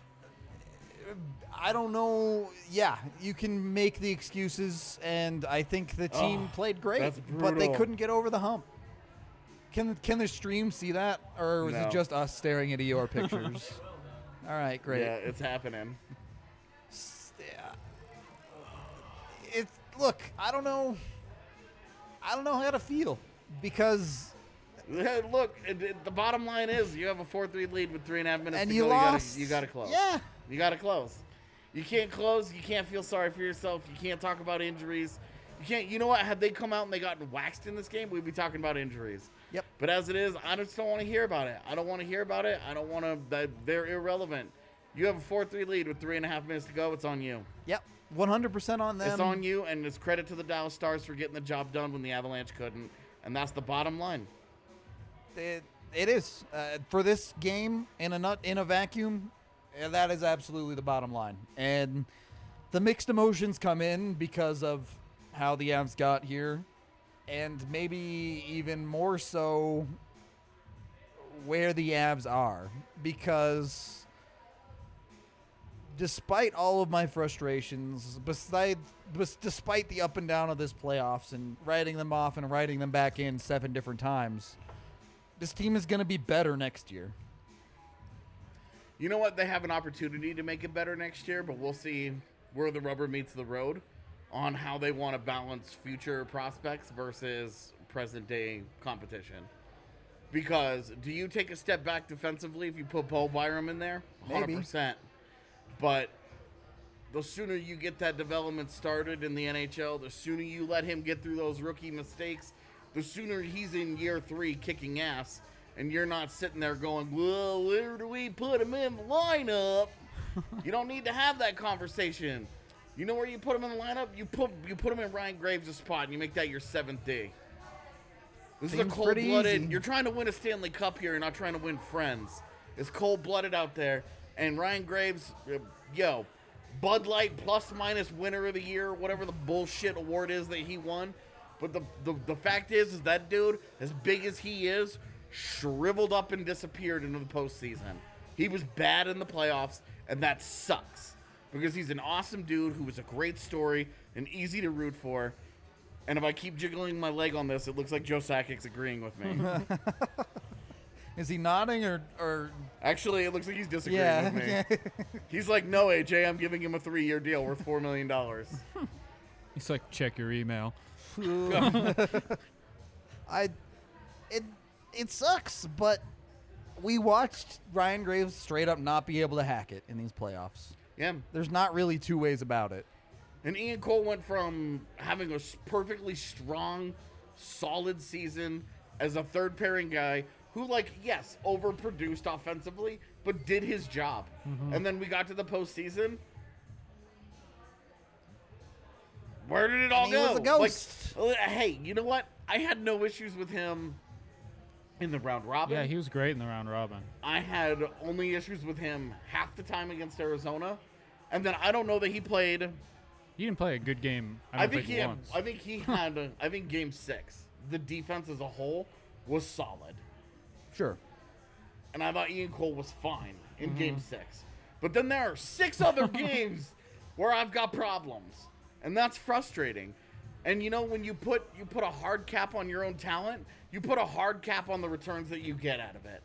I don't know. Yeah, you can make the excuses, and I think the team Oh, played great, that's but they brutal. couldn't get over the hump. Can can the stream see that, or is No. it just us staring at E O R pictures? All right, great. Yeah, it's happening. S- yeah. It look. I don't know. I don't know how to feel because Look, it, it- the bottom line is you have a four three lead with three and a half minutes and to you go. lost. You gotta, you gotta close. Yeah. You gotta close. You can't close. You can't feel sorry for yourself. You can't talk about injuries. You can't. You know what? Had they come out and they gotten waxed in this game, we'd be talking about injuries. Yep. But as it is, I just don't want to hear about it. I don't want to hear about it. I don't want to. That they're irrelevant. You have a four three lead with three and a half minutes to go. It's on you. Yep. one hundred percent on them. It's on you, and it's credit to the Dallas Stars for getting the job done when the Avalanche couldn't. And that's the bottom line. It, it is uh, for this game in a nut in a vacuum. uh, That is absolutely the bottom line, and the mixed emotions come in because of how the Avs got here, and maybe even more so where the Avs are, because despite all of my frustrations, beside, bes- despite the up and down of this playoffs and writing them off and writing them back in seven different times, this team is going to be better next year. You know what? They have an opportunity to make it better next year, but we'll see where the rubber meets the road on how they want to balance future prospects versus present day competition. Because do you take a step back defensively if you put Bo Byram in there? one hundred percent. But the sooner you get that development started in the N H L, the sooner you let him get through those rookie mistakes, the sooner he's in year three kicking ass, and you're not sitting there going, well, where do we put him in the lineup? You don't need to have that conversation. You know where you put him in the lineup? You put you put him in Ryan Graves' spot, and you make that your seventh D. This Seems is a pretty cold-blooded. easy. You're trying to win a Stanley Cup here. You're not trying to win friends. It's cold-blooded out there. And Ryan Graves, uh, yo, Bud Light plus minus winner of the year, whatever the bullshit award is that he won. But the, the, the fact is, is that dude, as big as he is, shriveled up and disappeared into the postseason. He was bad in the playoffs, and that sucks. Because he's an awesome dude who was a great story and easy to root for. And if I keep jiggling my leg on this, it looks like Joe Sakic's agreeing with me. Is he nodding or or Actually, it looks like he's disagreeing yeah? with me. yeah. He's like, no, A J, I'm giving him a three-year deal worth four million dollars. He's like, check your email. I it it sucks, but we watched Ryan Graves straight up not be able to hack it in these playoffs. Yeah. There's not really two ways about it. And Ian Cole went from having a s- perfectly strong, solid season as a third pairing guy who, like, yes, overproduced offensively, but did his job. Mm-hmm. And then we got to the postseason. Where did it all He go? was a ghost. Like, uh, hey, you know what? I had no issues with him in the round robin. Yeah, he was great in the round robin. I had only issues with him half the time against Arizona. And then I don't know that he played. He didn't play a good game. I, I, don't think think, he had, once. I think he had. uh, I think game six, the defense as a whole was solid, Sure. and I thought Ian Cole was fine in Mm-hmm. game six. But then there are six other games where I've got problems, and that's frustrating. And you know, when you put you put a hard cap on your own talent, you put a hard cap on the returns that you get out of it.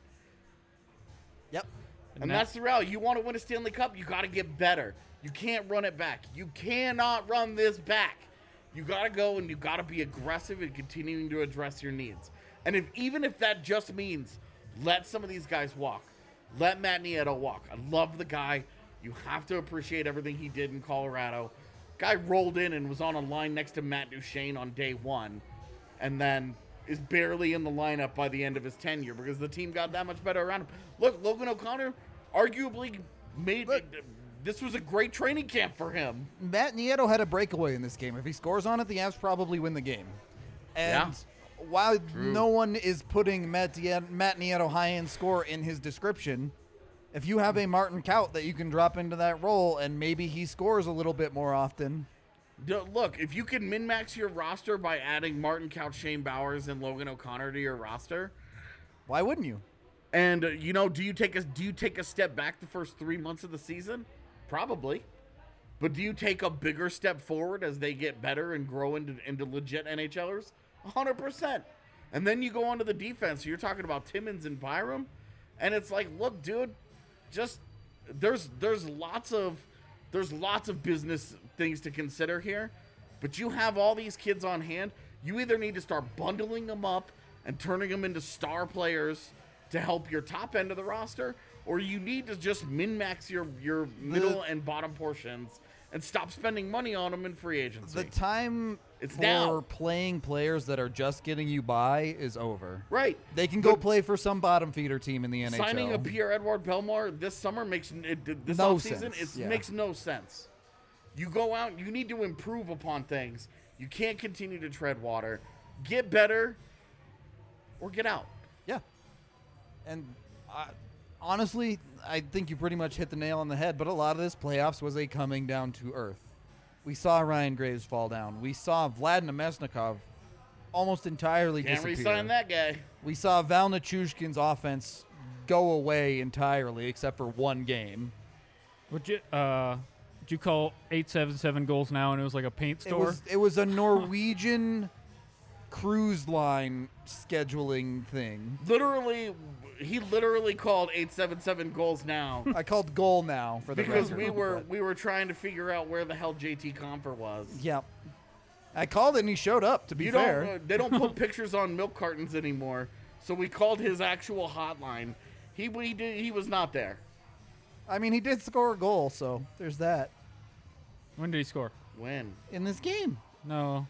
Yep. And that- that's the reality. You want to win a Stanley Cup, you got to get better. You can't run it back. You cannot run this back. You got to go and you got to be aggressive in continuing to address your needs. And if even if that just means let some of these guys walk, let Matt Nieto walk. I love the guy. You have to appreciate everything he did in Colorado. Guy rolled in and was on a line next to Matt Duchene on day one, and then is barely in the lineup by the end of his tenure because the team got that much better around him. Look, Logan O'Connor arguably made Look. this was a great training camp for him. Matt Nieto had a breakaway in this game. If he scores on it, the Avs probably win the game. And while no one is putting Matt, Die- Matt Nieto high-end score in his description, if you have a Martin Kaut that you can drop into that role and maybe he scores a little bit more often. D- Look, if you can min-max your roster by adding Martin Couch, Shane Bowers, and Logan O'Connor to your roster, Why wouldn't you? and uh, you know, do you take a do you take a step back the first three months of the season? Probably, but do you take a bigger step forward as they get better and grow into into legit NHLers? A hundred percent. And then you go on to the defense. You're talking about Timmins and Byram, and it's like, look, dude, just there's there's lots of there's lots of business things to consider here, but you have all these kids on hand. You either need to start bundling them up and turning them into star players to help your top end of the roster, or you need to just min-max your, your middle and bottom portions and stop spending money on them in free agency. The time It's for now. playing players that are just getting you by is over. Right. They can go But play for some bottom feeder team in the N H L. signing a Pierre-Edouard Bellemare this summer makes it, this No offseason, sense, it yeah. makes no sense. You go out, you need to improve upon things. You can't continue to tread water. Get better or get out. Yeah. And I, honestly, I think you pretty much hit the nail on the head, but a lot of this playoffs was a coming down to earth. We saw Ryan Graves fall down. We saw Vlad Nemesnikov almost entirely Can't disappear. re-sign that guy. We saw Val Nichushkin's offense go away entirely except for one game. Would you uh, would you call eight seven seven goals now and it was like a paint It store? was it was a Norwegian cruise line scheduling thing. Literally, he literally called eight seven seven goals now I called goal now for the because record, we were but- we were trying to figure out where the hell J T Confer was. Yep. I called it and he showed up, to be You fair. don't. Uh, they don't put pictures on milk cartons anymore, so we called his actual hotline. He he did, he was not there. I mean, he did score a goal, so there's that. When did he score? When? In this game. No.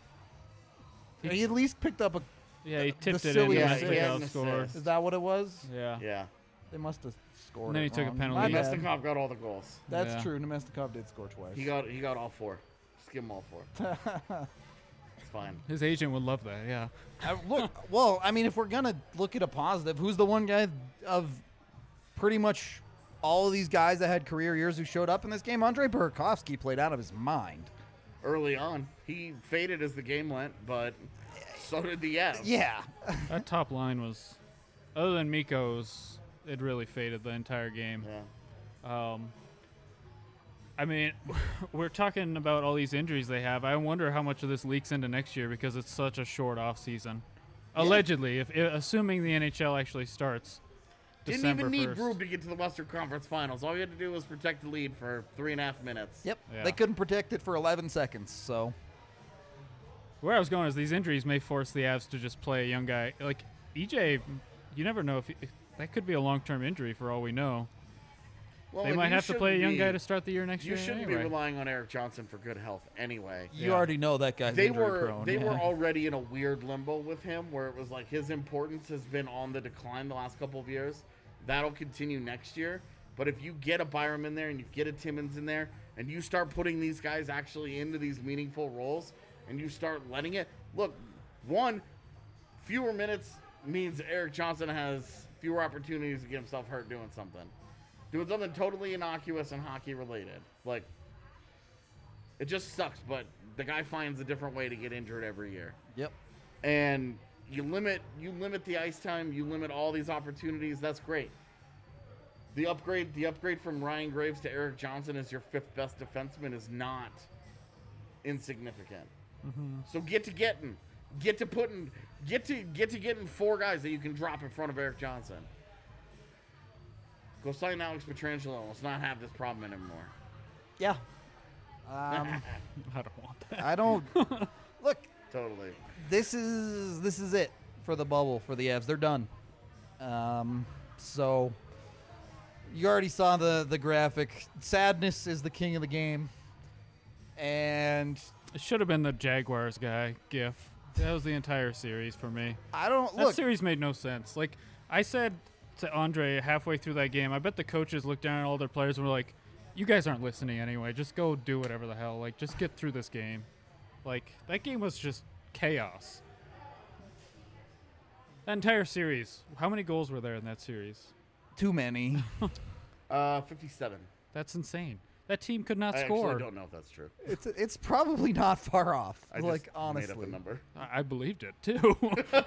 He at least picked up a... Yeah, he tipped it in. silly and assist. Mesnikov He had an scored. assist. Is that what it was? Yeah. Yeah. They must have scored And then it he took a wrong. penalty. My Yeah. bad. Nemesnikov got all the goals. That's Yeah. true. Nemesnikov did score twice. He got he got all four. Just give him all four. It's fine. His agent would love that. Yeah. I, look, well, I mean, if we're going to look at a positive, who's the one guy of pretty much all of these guys that had career years who showed up in this game? Andrei Burakovsky played out of his mind. Early on, he faded as the game went, but so did the Avs. Yeah. That top line was, other than Mikko's, it really faded the entire game. Yeah. Um, I mean, we're talking about all these injuries they have. I wonder how much of this leaks into next year because it's such a short off season. Allegedly, if, if assuming the N H L actually starts. Didn't December even need first. Grube to get to the Western Conference Finals. All you had to do was protect the lead for three and a half minutes. Yep. Yeah. They couldn't protect it for eleven seconds, so... Where I was going is these injuries may force the Avs to just play a young guy like E J. You never know if he, that could be a long-term injury for all we know. Well, they and might you have to play a shouldn't young be- guy to start the year next You year. shouldn't anyway. be relying on Eric Johnson for good health anyway. You Yeah. already know that guy's They injury were prone. they yeah. were already in a weird limbo with him, where it was like his importance has been on the decline the last couple of years. That'll continue next year. But if you get a Byram in there and you get a Timmons in there, and you start putting these guys actually into these meaningful roles, and you start letting it look, one, fewer minutes means Eric Johnson has fewer opportunities to get himself hurt doing something. Doing something totally innocuous and hockey related. Like, it just sucks, but the guy finds a different way to get injured every year. Yep. And you limit you limit the ice time, you limit all these opportunities, that's great. The upgrade the upgrade from Ryan Graves to Eric Johnson as your fifth best defenseman is not insignificant. Mm-hmm. So get to getting get to putting get to get to getting four guys that you can drop in front of Eric Johnson. Go sign Alex Pietrangelo. Let's not have this problem anymore. Yeah. Um, I don't want that. I don't look. Totally. This is this is it for the bubble for the Avs. They're done. Um, so you already saw the the graphic. Sadness is the king of the game, and It should have been the Jaguars guy gif. That was the entire series for me. I don't That look. series made no sense. Like I said to Andre halfway through that game, I bet the coaches looked down at all their players and were like, "You guys aren't listening anyway. Just go do whatever the hell. Like, just get through this game." Like that game was just chaos. That entire series. How many goals were there in that series? Too many. Uh, fifty-seven. That's insane. That team could not I score. actually don't know if that's true. It's it's probably not far off. I like just honestly, made up a number. I, I believed it too.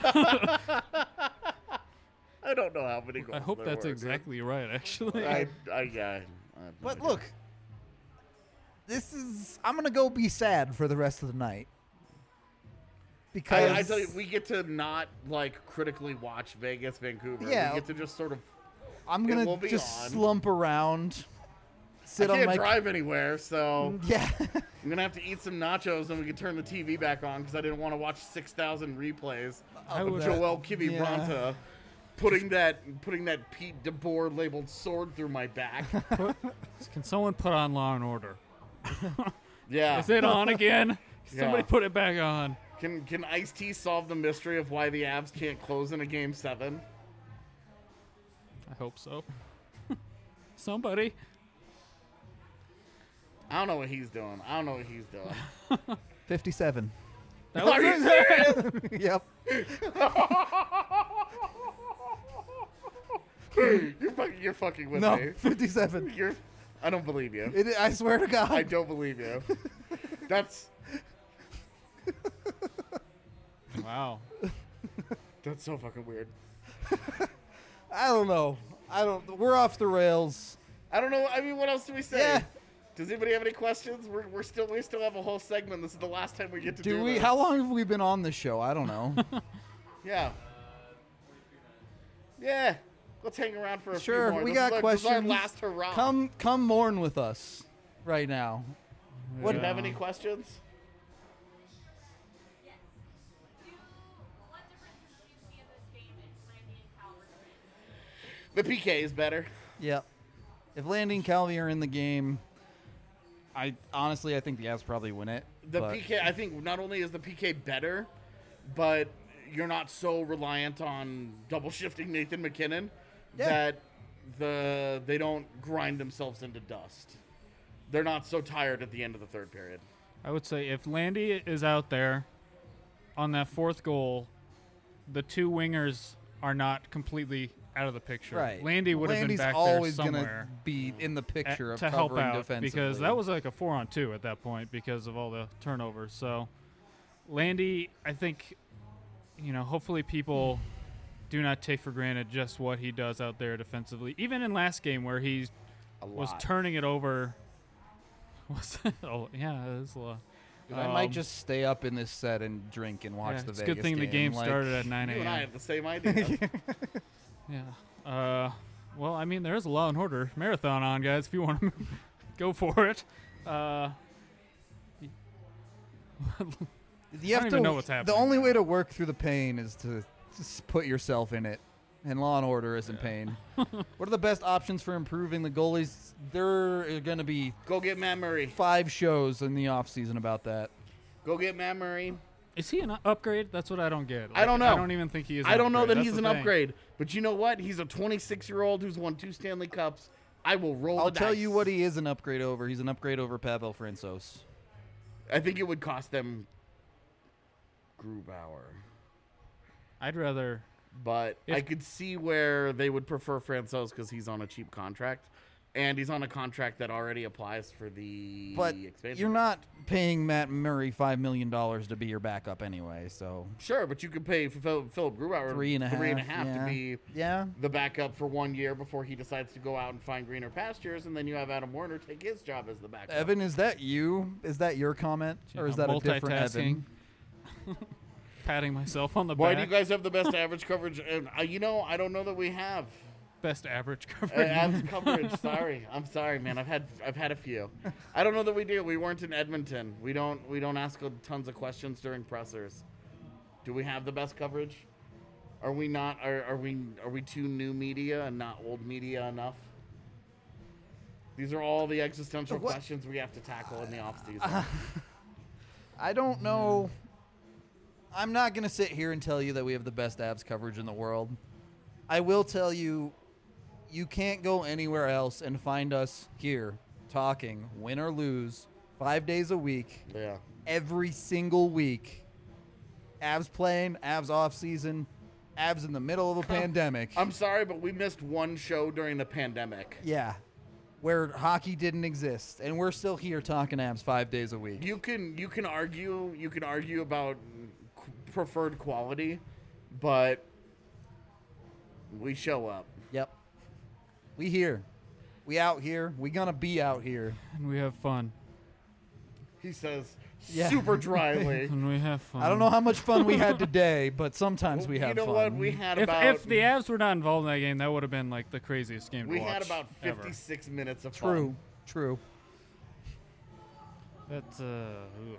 I don't know how many goals. I hope there that's were, exactly right. Actually, I, I, yeah. I have no But idea. look, this is. I'm gonna go be sad for the rest of the night. Because I, I tell you, we get to not like critically watch Vegas, Vancouver. Yeah. We get to just sort of. I'm it gonna will be just on. slump around, I sit on can't my drive anywhere, so yeah. I'm gonna have to eat some nachos, and we can turn the T V back on because I didn't want to watch six thousand replays I of would- Joel Kivi yeah. Branta putting that putting that Pete DeBoer labeled sword through my back. can someone put on Law and Order? Yeah. Is it on again? Somebody Yeah. put it back on. Can can Ice-T solve the mystery of why the Avs can't close in a game seven? I hope so. Somebody. I don't know what he's doing. I don't know what he's doing. fifty-seven. That was Are you it. serious? Yep. you're, fucking, you're fucking with No, me. fifty-seven. You're. I don't believe you. It, I swear to God. I don't believe you. That's Wow. that's so fucking weird. I don't know. I don't. We're off the rails. I don't know. I mean, what else do we say? Yeah. Does anybody have any questions? We're, we're still we still have a whole segment. This is the last time we get to do, Do we? this. How long have we been on this show? I don't know. Yeah. Yeah. Let's hang around for a Sure, few more. we This got is our, This is our questions. last hurrah. come, come mourn with us, right now. What, do you Yeah. have any questions? What differences do you see in this game if Randy and Cal were to win? The P K is better. Yep. If Landy and Calvi are in the game, I honestly I think the Avs probably win it. The but P K, I think, not only is the P K better, but you're not so reliant on double shifting Nathan McKinnon Yeah. that the they don't grind themselves into dust. They're not so tired at the end of the third period. I would say if Landy is out there on that fourth goal, the two wingers are not completely out of the picture. Right. Landy would have been Landy's back always there somewhere gonna be in the at- picture of to help covering out defensively. because that was like a four on two at that point because of all the turnovers. So Landy, I think, you know, hopefully people do not take for granted just what he does out there defensively. Even in last game where he A was lot. turning it over. Was oh yeah, it was a lot. Dude, I might Um, just stay up in this set and drink and watch yeah, the it's a Vegas good thing the game like- started at nine You and I a.m. have the same idea. Yeah. Uh, well, I mean, there is a Law and Order marathon on, guys. If you want to go for it. Uh, You have don't to, even know what's The happening only now. way to work through the pain is to just put yourself in it and Law and Order is in pain. What are the best options for improving the goalies? There are going to be Go get Matt Murray. five shows in the offseason about that. Go get Matt Murray. Is he an upgrade? That's what I don't get. I don't know. I don't even think he is. An I don't know upgrade. that That's he's the an thing. upgrade. But you know what? He's a twenty-six-year-old who's won two Stanley Cups. I will roll I'll the tell dice. you what he is an upgrade over. He's an upgrade over Pavel Francouz. I think it would cost them Grubauer. I'd rather. But If- I could see where they would prefer Francouz because he's on a cheap contract. And he's on a contract that already applies for the But expansion. you're not paying Matt Murray five million dollars to be your backup anyway, so Sure, but you could pay for Phil- Philip Grubauer three and a half. three and a half yeah. to be yeah. the backup for one year before he decides to go out and find greener pastures, and then you have Adam Warner take his job as the backup. Evan, is that you? Is that your comment? Or is Yeah, that a different Evan? multitasking. Patting myself on the Why back. do you guys have the best average coverage? And, uh, you know, I don't know that we have Best average uh, coverage. average coverage. Sorry, I'm sorry, man. I've had I've had a few. I don't know that we do. We weren't in Edmonton. We don't we don't ask tons of questions during pressers. Do we have the best coverage? Are we not? Are, are we are we too new media and not old media enough? These are all the existential What? questions we have to tackle in the off season. I don't know. I'm not going to sit here and tell you that we have the best Avs coverage in the world. I will tell you, you can't go anywhere else and find us here talking, win or lose, five days a week, yeah. every single week. Avs playing, Avs off season, Avs in the middle of a pandemic. I'm sorry, but we missed one show during the pandemic. Yeah, where hockey didn't exist, and we're still here talking Avs five days a week. You can you can argue you can argue about qu- preferred quality, but we show up. Yep. We here. We out here. We gonna be out here. and we have fun. He says Yeah. super dryly. And we have fun. I don't know how much fun we had today, but sometimes we you have know fun. what? We had If, about if the Avs were not involved in that game, that would have been like the craziest game to we watch. had about ever. fifty-six minutes of True. fun. True. That's uh. ugh.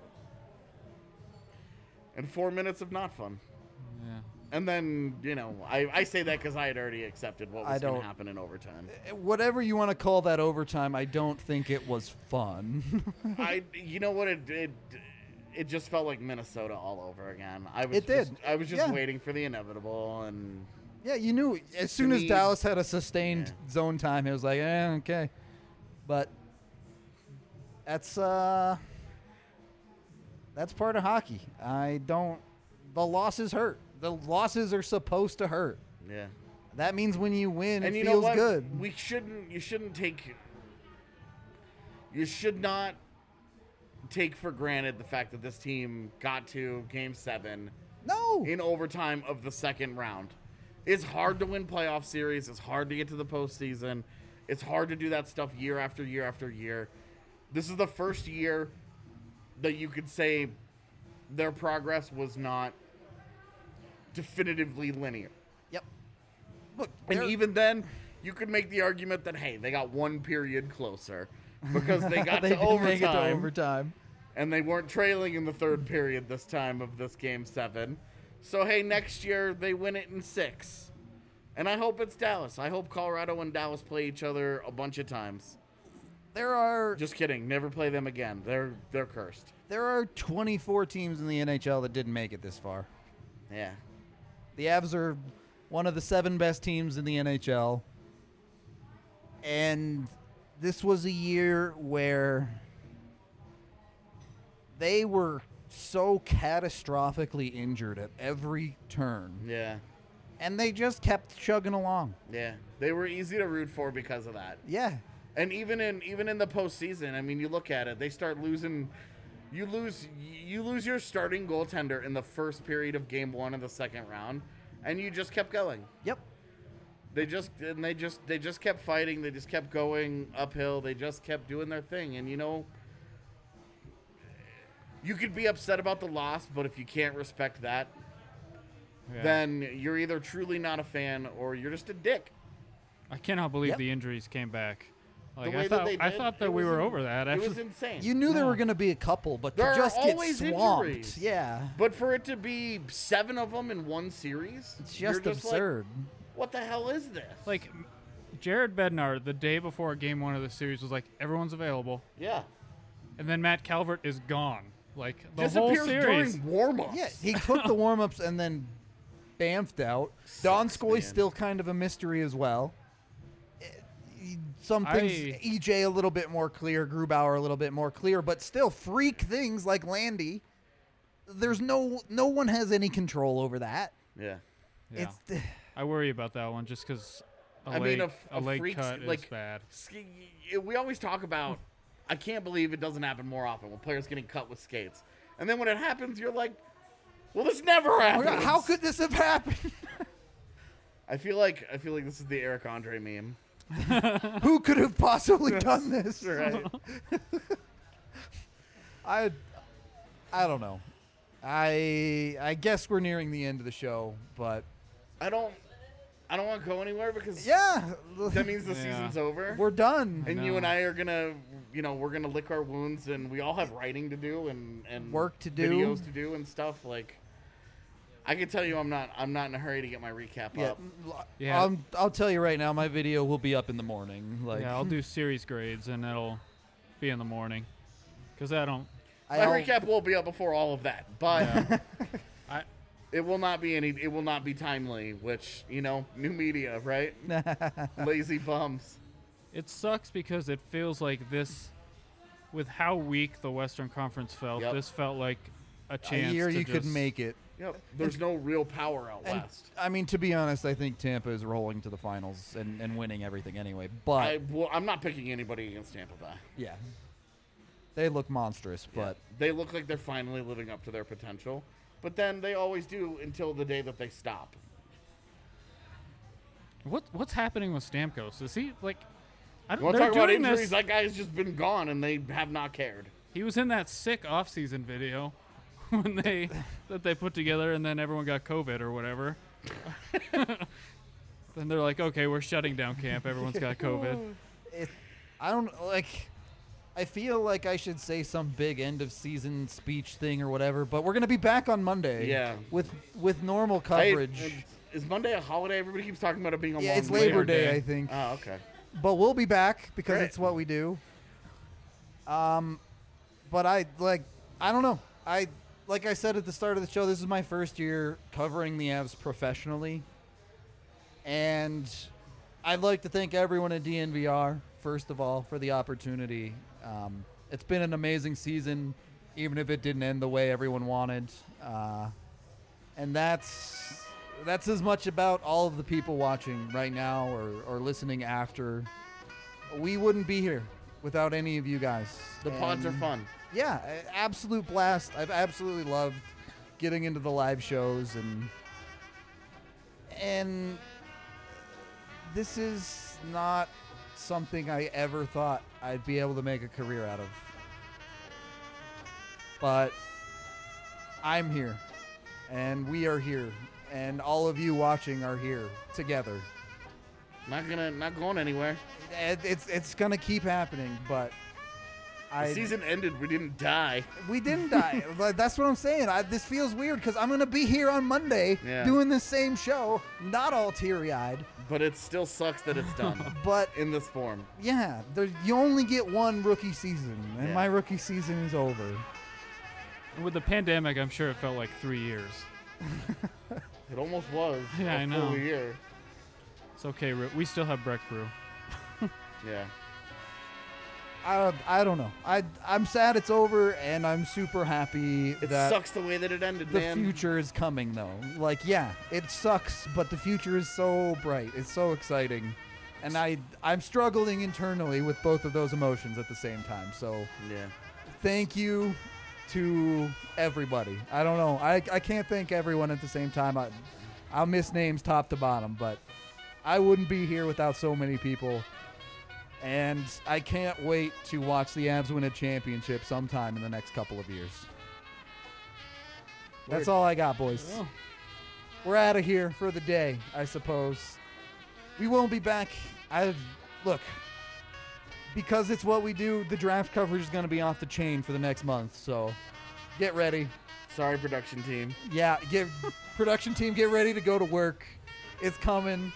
And four minutes of not fun. Yeah. And then, you know, I, I say that because I had already accepted what I was going don't- to happen in overtime. Whatever you want to call that overtime, I don't think it was fun. I, you know what, it, it it just felt like Minnesota all over again. I was It did. Just, I was just Yeah. waiting for the inevitable, and Yeah, you knew as soon as me- Dallas had a sustained Yeah. zone time, it was like, eh, okay. But that's uh that's part of hockey. I don't the losses hurt. The losses are supposed to hurt. yeah. That means when you win, And it you feels know what? good. We shouldn't. You shouldn't take. You should not take for granted the fact that this team got to Game Seven no. in overtime of the second round. It's hard to win playoff series. It's hard to get to the postseason. It's hard to do that stuff year after year after year. This is the first year that you could say their progress was not definitively linear. Yep. Look, And they're- even then, you could make the argument that, hey, they got one period closer because they got they to didn't overtime make it to overtime. and they weren't trailing in the third period this time of this game seven. So, hey, next year they win it in six. And I hope it's Dallas. I hope Colorado and Dallas play each other a bunch of times. There are Just kidding. Never play them again. They're they're cursed. there are twenty-four teams in the N H L that didn't make it this far. Yeah. The Avs are one of the seven best teams in the N H L. And this was a year where they were so catastrophically injured at every turn. Yeah. And they just kept chugging along. Yeah. They were easy to root for because of that. Yeah. And even in even in the postseason, I mean, you look at it, they start losing. You lose you lose your starting goaltender in the first period of game one of the second round, and you just kept going. Yep. They just and they just they just kept fighting. They just kept going uphill. They just kept doing their thing. And you know, you could be upset about the loss, but if you can't respect that, Yeah. then you're either truly not a fan or you're just a dick. I cannot believe Yep. the injuries came back. Like, way I that thought, they I did, thought that it we was were in- over that. It was Actually, insane. You knew there No. were going to be a couple, but There to are just get always swamped. injuries. Yeah. But for it to be seven of them in one series, It's you're just like, absurd. what the hell is this? Like, m- Jared Bednar, the day before game one of the series, was like, everyone's available. yeah. And then Matt Calvert is gone. Like, the Disappears whole series. during warm-ups. Yeah, he took the warm ups and then bamfed out. Don Sucks, Skoy's man. still kind of a mystery as well. Eh, he- Some things, I- E J a little bit more clear, Grubauer a little bit more clear, but still freak things like Landy. There's no no one has any control over that. Yeah. Yeah. It's I worry about that one just because a I leg, mean, a, f- a a leg freak, cut like, is bad. ski- we always talk about, I can't believe it doesn't happen more often when players getting cut with skates. And then when it happens, you're like, well, this never happens. how could this have happened? I feel like I feel like this is the Eric Andre meme. Who could have possibly done this? Right. I I don't know. I I guess we're nearing the end of the show, but I don't I don't want to go anywhere because yeah, that means the Yeah. season's over. we're done. and you know. and I are gonna, you know, we're gonna lick our wounds, and we all have writing to do and and Work to do. videos to do and stuff. Like, I can tell you, I'm not I'm not in a hurry to get my recap Yeah, up. Yeah. Um, I'll tell you right now, my video will be up in the morning. Like, Yeah, I'll do series grades, and it'll be in the morning. Because I don't... My I'll- recap will be up before all of that, but Yeah. I, it will not be any. It will not be timely. Which, you know, new media, right? Lazy bums. it sucks because it feels like this... With how weak the Western Conference felt, Yep. this felt like a a chance year to you could just- make it. Yep. There's no real power out And west. I mean, to be honest, I think Tampa is rolling to the finals and, and winning everything anyway. But I, well, I'm not picking anybody against Tampa Bay. yeah, they look monstrous. But They look like they're finally living up to their potential, but then they always do until the day that they stop. What What's happening with Stamkos? Is he, like... I You don't, want to they're talk about doing injuries? this- That guy's just been gone, and they have not cared. He was in that sick off-season video when they that they put together, and then everyone got COVID or whatever. Then they're like, okay, we're shutting down camp. Everyone's got COVID. it, I don't like. I feel like I should say some big end of season speech thing or whatever. But we're gonna be back on Monday. Yeah. With with normal I- coverage. is Monday a holiday? Everybody keeps talking about it being a yeah, long it's Labor Labor Day, Day. I think. Oh, okay. But we'll be back because Great. it's what we do. Um, but I like I don't know. I like I said at the start of the show, this is my first year covering the Avs professionally, and I'd like to thank everyone at D N V R first of all for the opportunity. Um, it's been an amazing season, even if it didn't end the way everyone wanted, uh, and that's that's as much about all of the people watching right now or, or listening after. We wouldn't be here without any of you guys. The pods are And, fun. Yeah, a- absolute blast. I've absolutely loved getting into the live shows and and this is not something I ever thought I'd be able to make a career out of. But I'm here and we are here and all of you watching are here together. Not gonna, not going anywhere. It, it's it's gonna keep happening, but The I season ended. We didn't die. we didn't die. Like, that's what I'm saying. I, this feels weird because I'm gonna be here on Monday Yeah. doing the same show, not all teary-eyed, But it still sucks that it's done but in this form. yeah, there, you only get one rookie season, and Yeah. my rookie season is over. With the pandemic, I'm sure it felt like three years. It almost was. Yeah, a I know. Full year. It's okay. Ri- We still have Breck Brew. Yeah. I, I don't know. I I'm sad it's over, and I'm super happy It that sucks the way that it ended, the man. future is coming though. Like, yeah, it sucks, but the future is so bright. It's so exciting. And I I'm struggling internally with both of those emotions at the same time. So, Yeah. thank you to everybody. I don't know. I I can't thank everyone at the same time. I I'll miss names top to bottom, but I wouldn't be here without so many people. And I can't wait to watch the Avs win a championship sometime in the next couple of years. That's Word. all I got, boys. Well, We're out of here for the day, I suppose. We won't be back. I look, because it's what we do. The draft coverage is going to be off the chain for the next month. So, get ready. Sorry, production team. Yeah, get production team, get ready to go to work. is coming.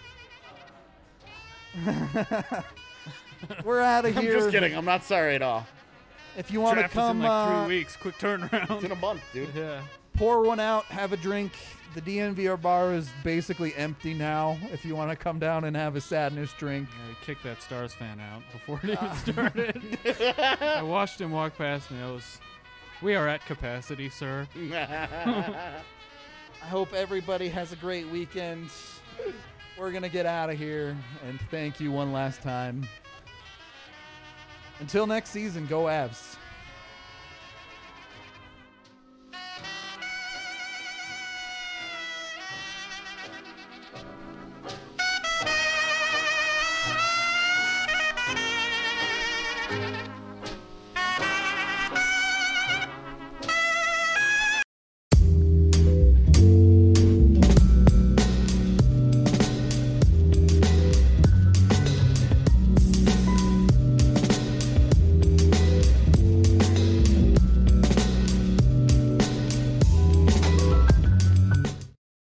We're out of I'm here. just kidding. I'm not sorry at all. If you want to Draft is in come like uh, three weeks. Quick It's in turnaround. a month, dude. Yeah. pour one out, have a drink. The D N V R bar is basically empty now. If you want to come down and have a sadness drink. Yeah, he kicked that Stars fan out before it even started. I watched him walk past me. I was, we are at capacity, sir. I hope everybody has a great weekend. We're going to get out of here, and thank you one last time. Until next season, go Avs.